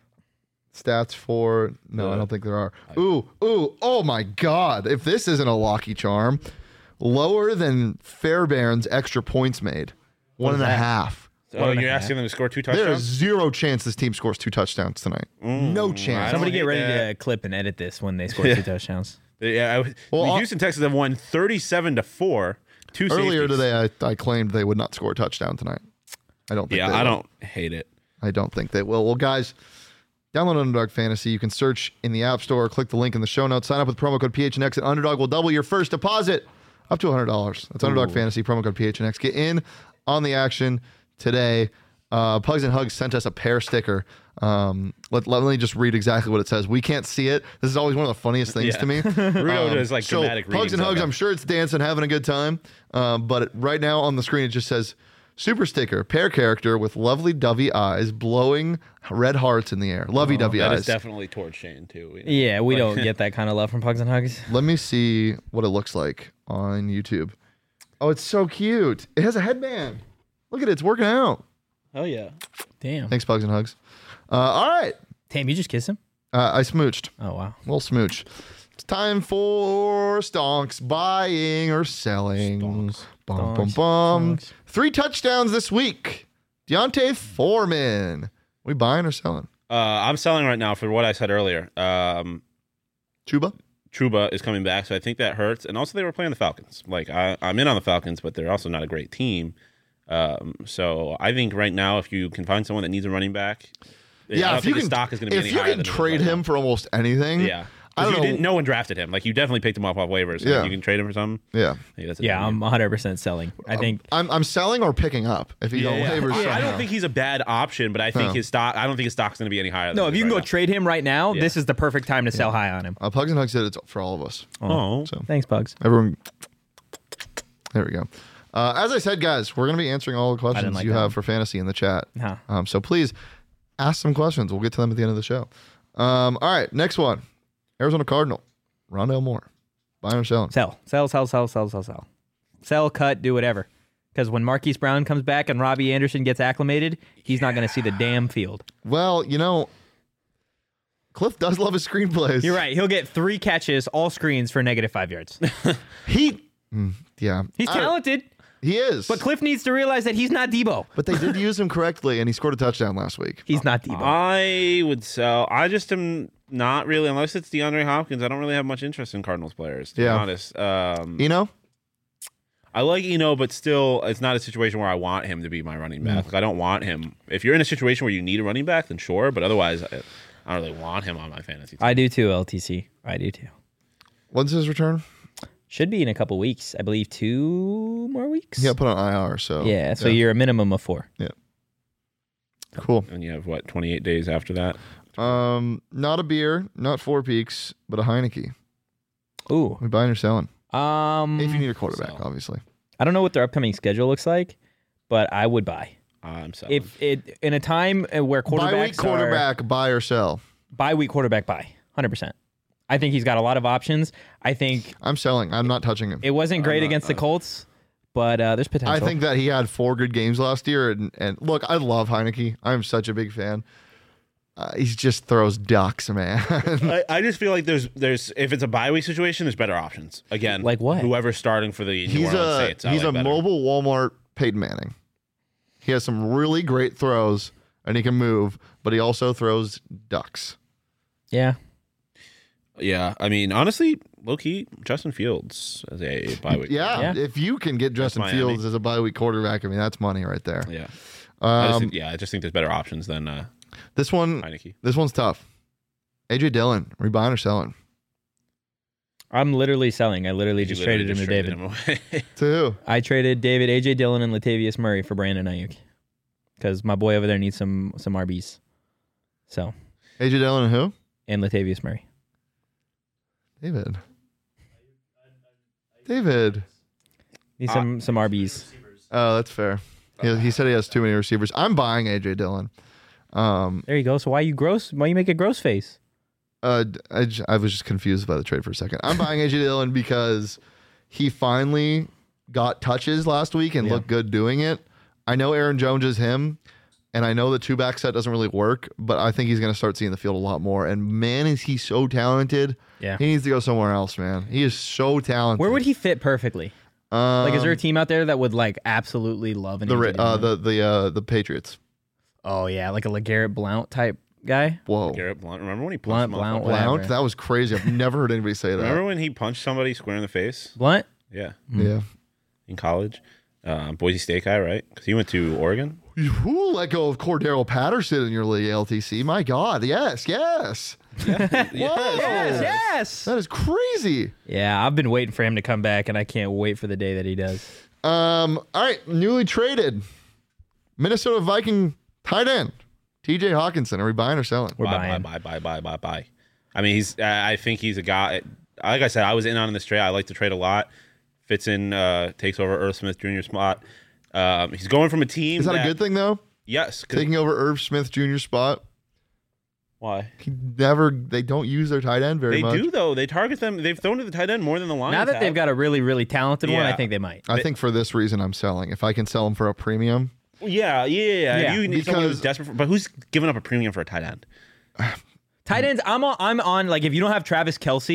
stats for? No, I Uh, don't think there are. Ooh, ooh, oh my God! If this isn't a Lucky Charm, lower than Fairbairn's extra points made, one is and a that? half. Oh, One and a you're half. asking them to score two There is touchdowns? zero chance this team scores two touchdowns tonight. no I chance. don't Somebody get hate ready that. to clip and edit this when they score Yeah. two touchdowns. Yeah, I, was- Well, the I- Houston Texans have won thirty-seven to four. Two Earlier safeties. today, I, I claimed they would not score a touchdown tonight. I don't think. Yeah, they I will. don't hate it. I don't think they will. Well, guys, download Underdog Fantasy. You can search in the App Store, click the link in the show notes, sign up with promo code P H N X, and Underdog will double your first deposit up to one hundred dollars. That's Underdog Fantasy, promo code P H N X. Get in on the action today. Uh, Pugs and Hugs sent us a pear sticker. Um, let, let me just read exactly what it says. We can't see it. This is always one of the funniest things Yeah. to me. Rudo Um, does like so dramatic Pugs and readings of Hugs, it. I'm sure it's dancing, having a good time. Um, but it, right now on the screen, it just says super sticker, pear character with lovely dovey eyes, blowing red hearts in the air. Lovey dovey That eyes. is definitely towards Shane too. Yeah, we Like- don't get that kind of love from Pugs and Hugs. Let me see what it looks like on YouTube. Oh, it's so cute. It has a headband. Look at it. It's working out. Oh yeah. Damn. Thanks, Pugs and Hugs. Uh, all right. Damn, you just kiss him? Uh, I smooched. Oh, wow. Little smooch. It's time for stonks, buying or selling. Stonks. Bum, bum, Stonks. bum. Stonks. Three touchdowns this week. Deontay Foreman. We buying or selling? Uh, I'm selling right now for what I said earlier. Um, Chuba? Truba is coming back, so I think that hurts. And also, they were playing the Falcons. Like, I, I'm in on the Falcons, but they're also not a great team. Um, so I think right now, if you can find someone that needs a running back, I Yeah, don't if think you his can, stock is going to be if any you higher can than it is trade right him now. for almost anything. Yeah. I 'Cause don't you know. didn't, no one drafted him. Like, you definitely picked him off off waivers. So Yeah. if you can trade him for something. Yeah. Yeah, that's a Yeah, damn I'm deal. one hundred percent selling. I think I'm I'm selling or picking up if he's Yeah, on yeah. waivers. I, I somehow. don't think he's a bad option, but I think No. his stock. I don't think his stock's going to be any higher. Than no. it If is you can right go now. trade him right now, Yeah. this is the perfect time to sell high on him. Uh, Pugs and Hugs said it's for all of us. Oh, So Thanks, Pugs. everyone, there we go. Uh, as I said, guys, we're going to be answering all the questions like you that have one. for fantasy in the chat. Huh. Um, so please ask some questions. We'll get to them at the end of the show. Um, all right, next one. Arizona Cardinal. Rondale Moore. Buying or selling? Sell, sell, sell, sell, sell, sell, sell. Sell, cut, do whatever. Because when Marquise Brown comes back and Robbie Anderson gets acclimated, he's not going to see the damn field. Well, you know, Cliff does love his screenplays. You're right. He'll get three catches, all screens for negative five yards. He, mm, yeah. He's I- talented, He is. but Cliff needs to realize that he's not Debo. But they did use him correctly, and he scored a touchdown last week. He's not Debo. I would sell. I just am not really, unless it's DeAndre Hopkins. I don't really have much interest in Cardinals players. To Yeah. be honest. Um, You know? I like Eno, but still, it's not a situation where I want him to be my running back. Like, I don't want him. If you're in a situation where you need a running back, then sure. But otherwise, I, I don't really want him on my fantasy team. I do too, L T C. I do too. When's his return? Should be in a couple weeks. I believe two more weeks. He got put on I R, so. Yeah, so you're a minimum of four. Cool. And you have what, twenty-eight days after that? Um, not a beer, not Four Peaks, but a Heineke. Ooh. We buying or selling? Um, If you need a quarterback, sell. obviously. I don't know what their upcoming schedule looks like, but I would buy. I'm selling. If it in a time uh, where quarterbacks Bye week quarterback, buy or sell. are bye week quarterback buy, one hundred percent. I think he's got a lot of options. I think I'm selling. I'm not touching him. it wasn't great not- against the uh, Colts, but uh, there's potential. I think that he had four good games last year, and, and look, I love Heineke. I'm such a big fan. Uh, he just throws ducks, man. I, I just feel like there's there's if it's a bye week situation, there's better options. Again, Like what? Whoever's starting for the New he's Orleans a Saints, I he's like a better. mobile Walmart Peyton Manning. He has some really great throws, and he can move, but he also throws ducks. yeah. Yeah, I mean, honestly, low key, Justin Fields as a bye week. Yeah, Yeah. if you can get Justin Miami. Fields as a bye week quarterback, I mean that's money right there. yeah. I just Um, think, yeah, I just think there's better options than uh, this one, Heineke. this one's tough. A J Dillon, are we buying or selling? I'm literally selling. I literally You just literally traded him to traded David. him away. To who? I traded David, A J Dillon, and Latavius Murray for Brandon Ayuk because my boy over there needs some some R Bs. So A J Dillon and who? and Latavius Murray. David. David. Need Uh, some some R Bs. Oh, that's fair. He, he said he has too many receivers. I'm buying A J Dillon. Um, There you go. So why you gross? Why you make a gross face? uh, I, j- I was just confused by the trade for a second. I'm buying A J Dillon because he finally got touches last week and Yeah. looked good doing it. I know Aaron Jones is him, and I know the two back set doesn't really work, but I think he's going to start seeing the field a lot more. And man, is he so talented. Yeah. He needs to go somewhere else, man. He is so talented. Where would he fit perfectly? Um, Like, is there a team out there that would like absolutely love an the A J Ra- uh, Dillon? the the uh, the Patriots? Oh yeah, like a LeGarrette Blount type guy. Whoa, Garrett Blunt. Remember when he Blunt, punched Blount, motherfuckers? whatever. Blount, that was crazy. I've never heard anybody say that. Remember when he punched somebody square in the face? Blunt. Yeah, Yeah. in college, uh, Boise State guy, right? Because he went to Oregon. Who let go of Cordero Patterson in your league, L T C? My God, yes, yes. Whoa. Yes, yes. That is crazy. Yeah, I've been waiting for him to come back, and I can't wait for the day that he does. Um, all right, newly traded Minnesota Viking tight end T J Hawkinson. Are we buying or selling? We're buy, buying. buy, buy, buy, buy, buy, buy. I mean, he's. I I think he's a guy. Like I said, I was in on this trade. I like to trade a lot. Fits in, uh, takes over Irv Smith Junior spot. Um, he's going from a team. Is that, a good thing though? Yes. 'cause- Taking over Irv Smith Junior's spot. Why? He never. They don't use their tight end very They much. do though. They target them. They've thrown to the tight end more than the Lions. Now that they've have. got a really, really talented one, I Yeah. think they might. I think for this reason, I'm selling. If I can sell him for a premium, Yeah, yeah, yeah. Yeah, If you need someone who's because- desperate, for, but who's giving up a premium for a tight end? Tight ends, I'm on, I'm on. Like, if you don't have Travis Kelsey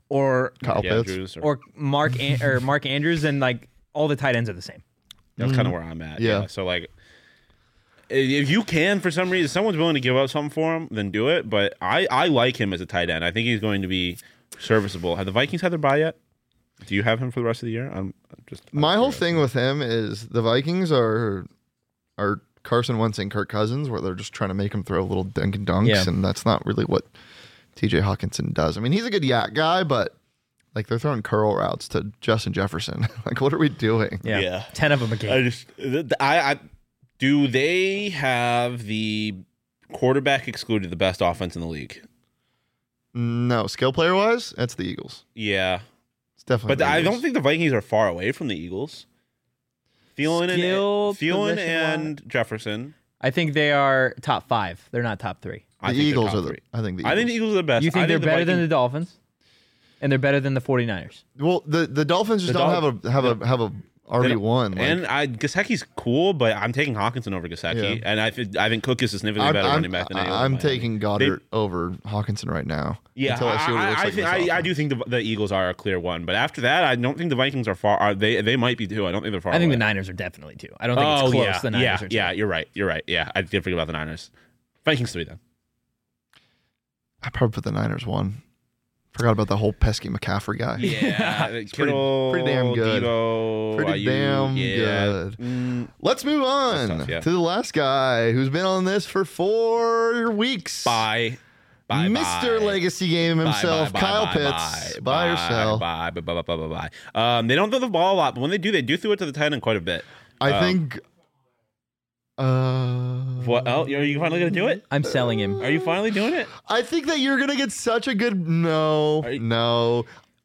or Kyle Yeah, Pitts. Andrews or- or Mark An- or Mark Andrews, and like all the tight ends are the same. That's kind of where I'm at. Yeah. Yeah. So like, if you can, for some reason, if someone's willing to give up something for him, then do it. But I, I like him as a tight end. I think he's going to be serviceable. Have the Vikings had their bye yet? Do you have him for the rest of the year? I'm I'm just I'm My whole curious. thing with him is the Vikings are are Carson Wentz and Kirk Cousins, where they're just trying to make him throw little dink and dunks, Yeah. and that's not really what T J Hawkinson does. I mean, he's a good yak guy, but like they're throwing curl routes to Justin Jefferson. Like, what are we doing? Yeah, Yeah. ten of them a game. I just I, I do they have the quarterback excluded the best offense in the league? No, skill player wise, that's the Eagles. Yeah. It's definitely. But the I Eagles. don't think the Vikings are far away from the Eagles. Thielen Skill and Thielen position-wise? and Jefferson. I think they are top five. They're not top three. I the think they're Eagles top are the. three. I think the. I think Eagles. the Eagles are the best. You think I they're better than the Vikings- Dolphins? And they're better than the 49ers. Well, the the Dolphins just The don't Dol- have a have a have a R B one. Like, and I Gasecki's cool, but I'm taking Hawkinson over Gasecki, Yeah. and I think I think Cook is a significantly I'm, better I'm, running back than anyone. in I'm Miami. taking Goddard over Hawkinson right now. Yeah, until I, see what he I, looks I, like in think, this I, I offense. do think the, the Eagles are a clear one, but after that, I don't think the Vikings are far. Are they? They might be too. I don't think they're far. I think away. the Niners are definitely two. I don't think Oh it's close. yeah, the Niners yeah, are two. yeah. You're right. You're right. Yeah, I did forget about the Niners. Vikings three then. I probably put the Niners one. Forgot about the whole pesky McCaffrey guy. Yeah, pretty- Kittle, pretty damn good. Debo, Pretty Ayuk, damn yeah. good. Mm, Let's move on That's tough, yeah. to the last guy who's been on this for four weeks. bye, bye, Mister bye. Legacy Game Bye, himself, bye, Kyle bye, Pitts. Bye, Buy or bye, sell? Bye, bye, bye, bye, bye, bye, bye. Um, they don't throw the ball a lot, but when they do, they do throw it to the tight end quite a bit. I Um, think. Uh, What? Oh, are you finally gonna do it? I'm selling him. Are you finally doing it? I think that you're gonna get such a good no, Are you- no.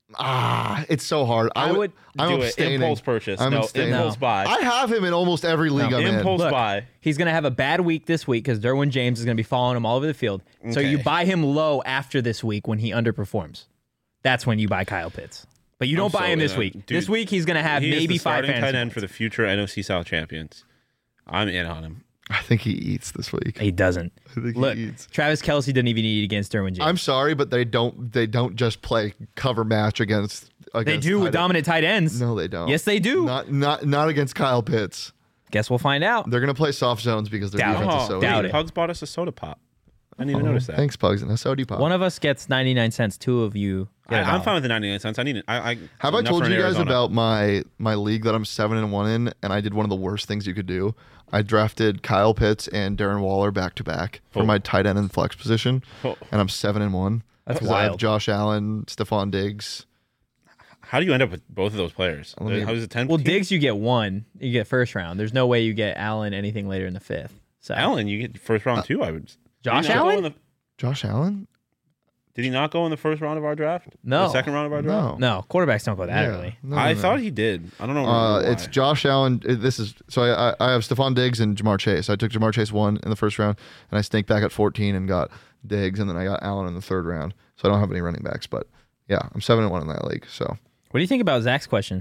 Ah, it's so hard. I would I'm do abstaining. it. Impulse purchase. I'm no, abstaining. impulse No. buy. I have him in almost every league No. I'm impulse in. Look, buy. He's going to have a bad week this week because Derwin James is going to be following him all over the field. So you Okay. buy him low after this week when he underperforms. That's when you buy Kyle Pitts. But you don't I'm buy so him this in. week. Dude, this week he's going to have He is maybe the five starting fantasy tight end points. for the future N F C South champions. I'm in on him. I think he eats this week. He doesn't. I think Look, he eats. Travis Kelsey didn't even eat against Derwin James. I'm sorry, but they don't. They don't just play cover match against. they against do with tight- dominant tight ends. No, they don't. Yes, they do. Not not not against Kyle Pitts. Guess we'll find out. They're gonna play soft zones because their Doubt it. defense is Oh, so doubt weak. it. Pugs bought us a soda pop. I didn't even Oh, notice that. Thanks, Pugs, and a soda pop. One of us gets ninety-nine cents. Two of you I, get a I'm dollar. fine with the ninety-nine cents. I need it. I, I, Have I enough told for you an guys Arizona. about my my league that I'm seven and one in, and I did one of the worst things you could do. I drafted Kyle Pitts and Darren Waller back to back for Oh. my tight end and flex position, Oh. and I'm seven and one. That's 'Cause I have wild. Josh Allen, Stephon Diggs. How do you end up with both of those players? Let me- How is it ten? Well, Diggs, you get one. You get first round. There's no way you get Allen anything later in the fifth. So Allen, you get first round too. I would. Josh Did he not go Allen? in the- Josh Allen? Did he not go in the first round of our draft? No. The second round of our draft. No. No, quarterbacks don't go that Yeah. early. No, I no, no. thought he did. I don't know. Uh, why. it's Josh Allen. uh, This is so I, I I have Stephon Diggs and Jamar Chase. I took Jamar Chase one in the first round, and I snaked back at fourteen and got Diggs, and then I got Allen in the third round. So I don't have any running backs, but yeah, I'm seven and one in that league. So What do you think about Zach's question?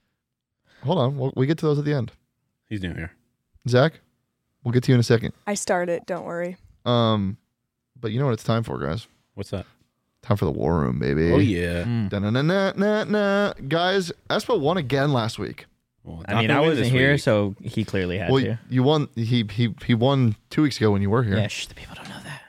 hold on, we'll, we get to those at the end. He's new here. Zach, we'll get to you in a second. I started. Don't worry. Um, but you know what it's time for, guys? What's that? Time for the war room, baby. Oh yeah. Mm. Da-na-na-na-na-na. Guys, Espo won again last week. Well, I not mean, gonna I win wasn't this here, week. so he clearly had Well, to. you won. He he he won two weeks ago when you were here. Yeah, shh, the people don't know that.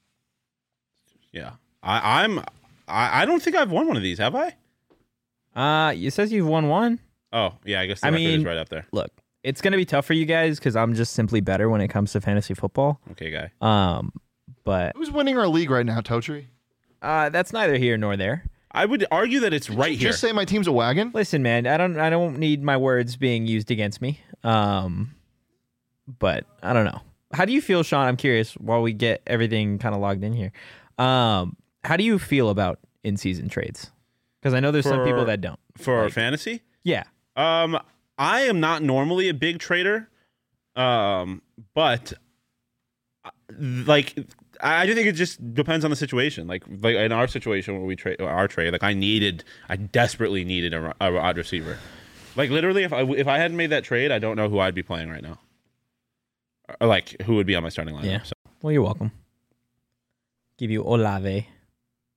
Yeah. I, I'm. I, I don't think I've won one of these. Have I? Uh, it says you've won one. Oh yeah. I guess the I record is mean- right up there. Look, it's gonna be tough for you guys because I'm just simply better when it comes to fantasy football. Okay, guy. Um, but Who's winning our league right now, Totri? uh, that's neither here nor there. I would argue that it's right here. Just say my team's a wagon. Listen, man, I don't I don't need my words being used against me. Um, but I don't know. How do you feel, Sean? I'm curious. While we get everything kind of logged in here, um, how do you feel about in-season trades? Because I know there's some For- people that don't. for our Like- fantasy. Yeah, Um, I am not normally a big trader, um, but uh, like I do think it just depends on the situation. Like, like in our situation where we trade our trade, like I needed, I desperately needed a, a wide receiver. Like literally, if I if I hadn't made that trade, I don't know who I'd be playing right now, or like who would be on my starting lineup. Yeah. So well, you're welcome. Give you Olave.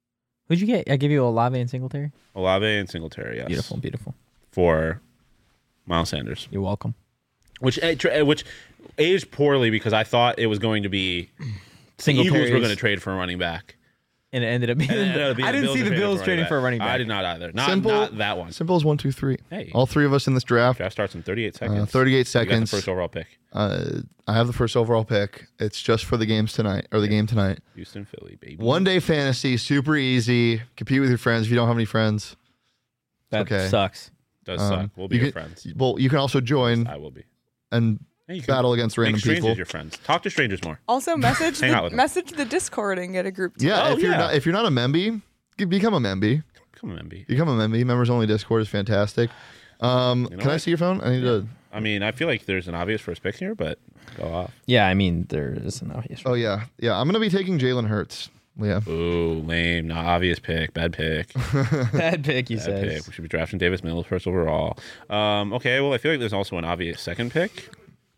Who'd you get? I give you Olave and Singletary. Olave and Singletary, yes. Beautiful, beautiful. For Miles Sanders. You're welcome. Which which aged poorly because I thought it was going to be the Singletary's- Eagles were going to trade for a running back. And it ended up being. And it ended up being I didn't Bills see the traded Bills a trading for a running back. I did not either. Not, Simple- not that one. Simple as one, two, three. Hey. All three of us in this draft. Draft starts in thirty-eight seconds. Uh, thirty-eight You got seconds. the first overall pick. Uh, I have the first overall pick. It's just for the games tonight or the game tonight. Houston, Philly, baby. One day fantasy, super easy. Compete with your friends if you don't have any friends. That Okay. sucks. Does Um, suck. We'll be you your can- friends. Well, you can also join I will be. and Hey, you can battle against make random strangers people. your friends. Talk to strangers more. Also, message Hang out the with 'em. message the Discord and get a group. Too. Yeah, Oh, if you're yeah. not if you're not a memby, g- become a memby. Come on, M B. Become a memby. Members only Discord is fantastic. Um, You know can I what? see your phone? I need to. I mean, I feel like there's an obvious first pick here, but go off. Yeah, I mean there is an obvious. Oh yeah, yeah. I'm gonna be taking Jalen Hurts. Yeah. Ooh, lame. Not obvious pick. Bad pick. Bad pick, you Bad said. pick. We should be drafting Davis Mills first overall. Um, okay, well, I feel like there's also an obvious second pick.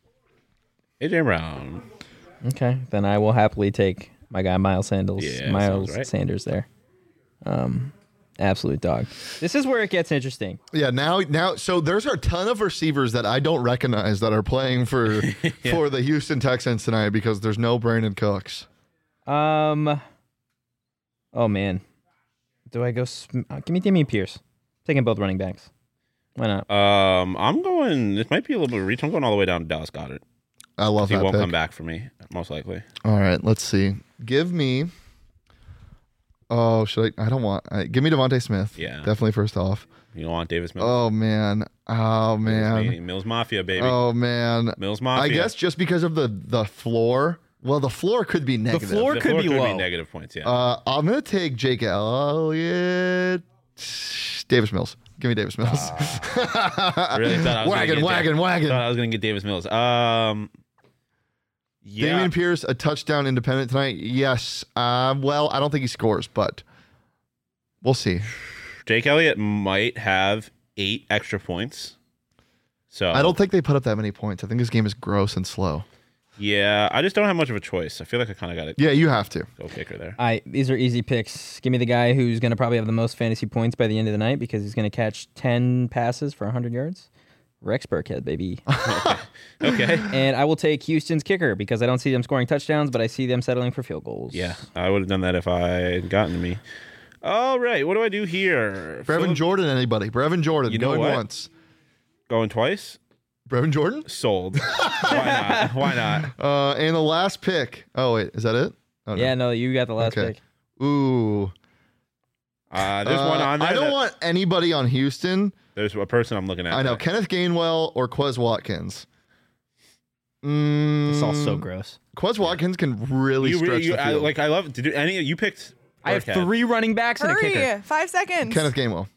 A J Brown. Okay, then I will happily take my guy Miles Sanders. Yeah, Miles sounds right. Sanders there. Um, absolute dog. This is where it gets interesting. Yeah, now now so there's a ton of receivers that I don't recognize that are playing for for the Houston Texans tonight because there's no Brandon Cooks. Um. Oh man, do I go? Sm- uh, give me Damian Pierce. Taking both running backs. Why not? Um, I'm going. This might be a little bit of a reach. I'm going all the way down to Dallas Goddard. I love He that won't pick. come back for me, most likely. All right, let's see. Give me. Oh, should I? I don't want. Uh, give me Devontae Smith. Yeah. definitely first off. You don't want Davis Mills. Oh man. Oh Mills, man. Mills Mafia, baby. Oh man. Mills Mafia. I guess just because of the the floor. Well, the floor could be negative. floor- the could floor be could low. be negative points. Yeah. Uh, I'm gonna take Jake Elliott. Davis Mills. Give me Davis Mills. I really thought I was wagon, gonna get wagon, Da- wagon. Thought I was going to get Davis Mills. Um. Yeah. Damian Pierce, a touchdown independent tonight. Yes. Uh, well, I don't think he scores, but we'll see. Jake Elliott might have eight extra points. So I don't think they put up that many points. I think this game is gross and slow. Yeah, I just don't have much of a choice. I feel like I kind of got to Yeah, you have to. go kicker there. I these are easy picks. Give me the guy who's going to probably have the most fantasy points by the end of the night because he's going to catch ten passes for one hundred yards. Rex Burkhead, baby. Okay. And I will take Houston's kicker because I don't see them scoring touchdowns, but I see them settling for field goals. Yeah, I would have done that if I had gotten to me. All right, what do I do here? Brevin Phillip- Jordan, anybody? Brevin Jordan, You know going what? once. Going twice? Brevin Jordan? Sold. Why not? Why not? Uh, and the last pick. Oh, wait. Is that it? Oh, no. Yeah, no, you got the last Okay. pick. Ooh. Uh, there's Uh, one on there. I don't that- want anybody on Houston. There's a person I'm looking at. I know. there. Kenneth Gainwell or Quez Watkins. Mm, It's all so gross. Quez Watkins can really You stretch really, you, the I, field. like I love. Did you, any you picked? I have Burkhead. three running backs and a kicker. Hurry! Five seconds. Kenneth Gainwell.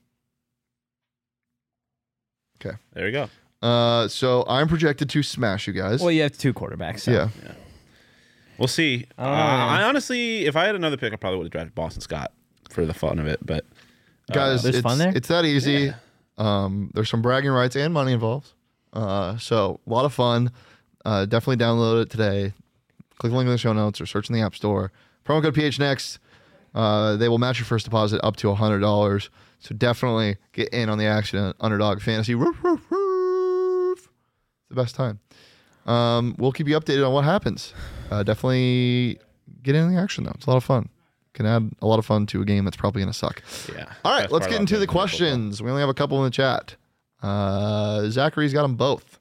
There you go. Uh, so I'm projected to smash you guys. Well, you have two quarterbacks. So. yeah. We'll see. Uh, Oh. I honestly, if I had another pick, I probably would have drafted Boston Scott for the fun of it. But uh, Guys, There's it's, fun there? it's that easy. Yeah. Um, there's some bragging rights and money involved. Uh, so a lot of fun. Uh, definitely download it today. Click the link in the show notes or search in the App Store. Promo code P H Next. Uh, they will match your first deposit up to one hundred dollars. So definitely get in on the action at Underdog Fantasy. Roof, roof, roof. It's the best time. Um, we'll keep you updated on what happens. Uh, definitely get in the action, though. It's a lot of fun. Can add a lot of fun to a game that's probably going to suck. yeah. All right, Best let's part get about into the playing football. questions. We only have a couple in the chat. Uh, Zachary's got them both.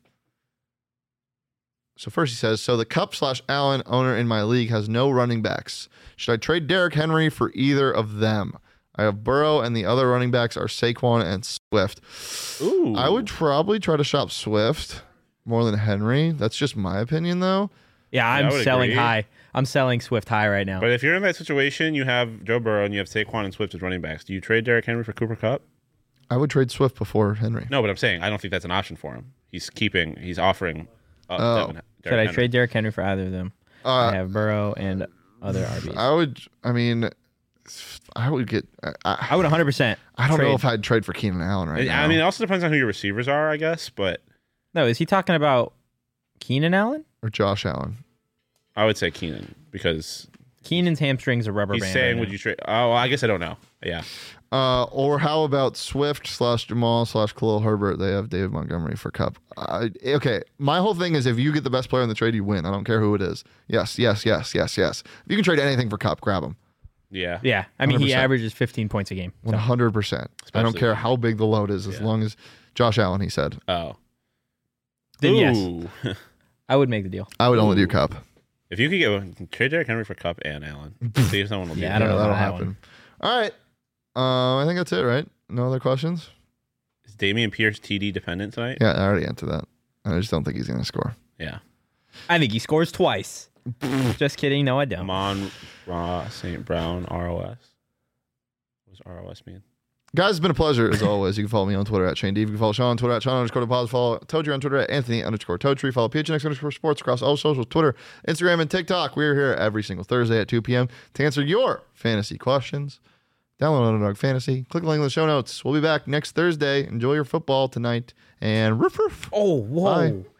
So first he says, so the Cup slash Allen owner in my league has no running backs. Should I trade Derrick Henry for either of them? I have Burrow and the other running backs are Saquon and Swift. Ooh. I would probably try to shop Swift more than Henry. That's just my opinion, though. Yeah, I I'm would selling agree. high. I'm selling Swift high right now. But if you're in that situation, you have Joe Burrow and you have Saquon and Swift as running backs. Do you trade Derrick Henry for Cooper Kupp? I would trade Swift before Henry. No, but I'm saying I don't think that's an option for him. He's keeping. He's offering. Uh, Oh. Devin- Should Derrick I Henry. trade Derrick Henry for either of them? I Uh, have Burrow and other R Bs. I would, I mean, I would get, I, I, I would one hundred percent. I don't know trade. if I'd trade for Keenan Allen right I now. mean, it also depends on who your receivers are, I guess. But No, is he talking about Keenan Allen? or Josh Allen. I would say Keenan because Keenan's hamstrings are rubber He's band. saying, right would now. you trade? Oh, I guess I don't know. Yeah. Uh, or how about Swift slash Jamal slash Khalil Herbert? They have David Montgomery for Cup. I, okay, my whole thing is if you get the best player in the trade, you win. I don't care who it is. Yes, yes, yes, yes, yes. If you can trade anything for Cup, grab him. Yeah. Yeah, I mean, one hundred he percent. averages fifteen points a game. One hundred percent. I don't Especially- care how big the load is, as Yeah. long as Josh Allen. He said Oh. Then yes, Ooh. I would make the deal. I would only do Ooh. Cup. If you could get trade Derrick Henry for Cup and Allen, see if someone will do Yeah, that. I don't know that'll about that happen. one. All right. Uh, I think that's it, right? No other questions? Is Damian Pierce T D dependent tonight? Yeah, I already answered that. I just don't think he's going to score. Yeah. I think he scores twice. Just kidding. No, I don't. Amon Ra Saint Brown R O S. What does R O S mean? Guys, it's been a pleasure as always. You can follow me on Twitter at Shane D. You can follow Sean on Twitter at Sean underscore deposit. Follow Toadry on Twitter at Anthony underscore Toadtree. Follow P H N X underscore sports across all socials, Twitter, Instagram, and TikTok. We're here every single Thursday at two p.m. to answer your fantasy questions. Download Underdog Fantasy. Click the link in the show notes. We'll be back next Thursday. Enjoy your football tonight. And roof roof. Oh, whoa. Bye.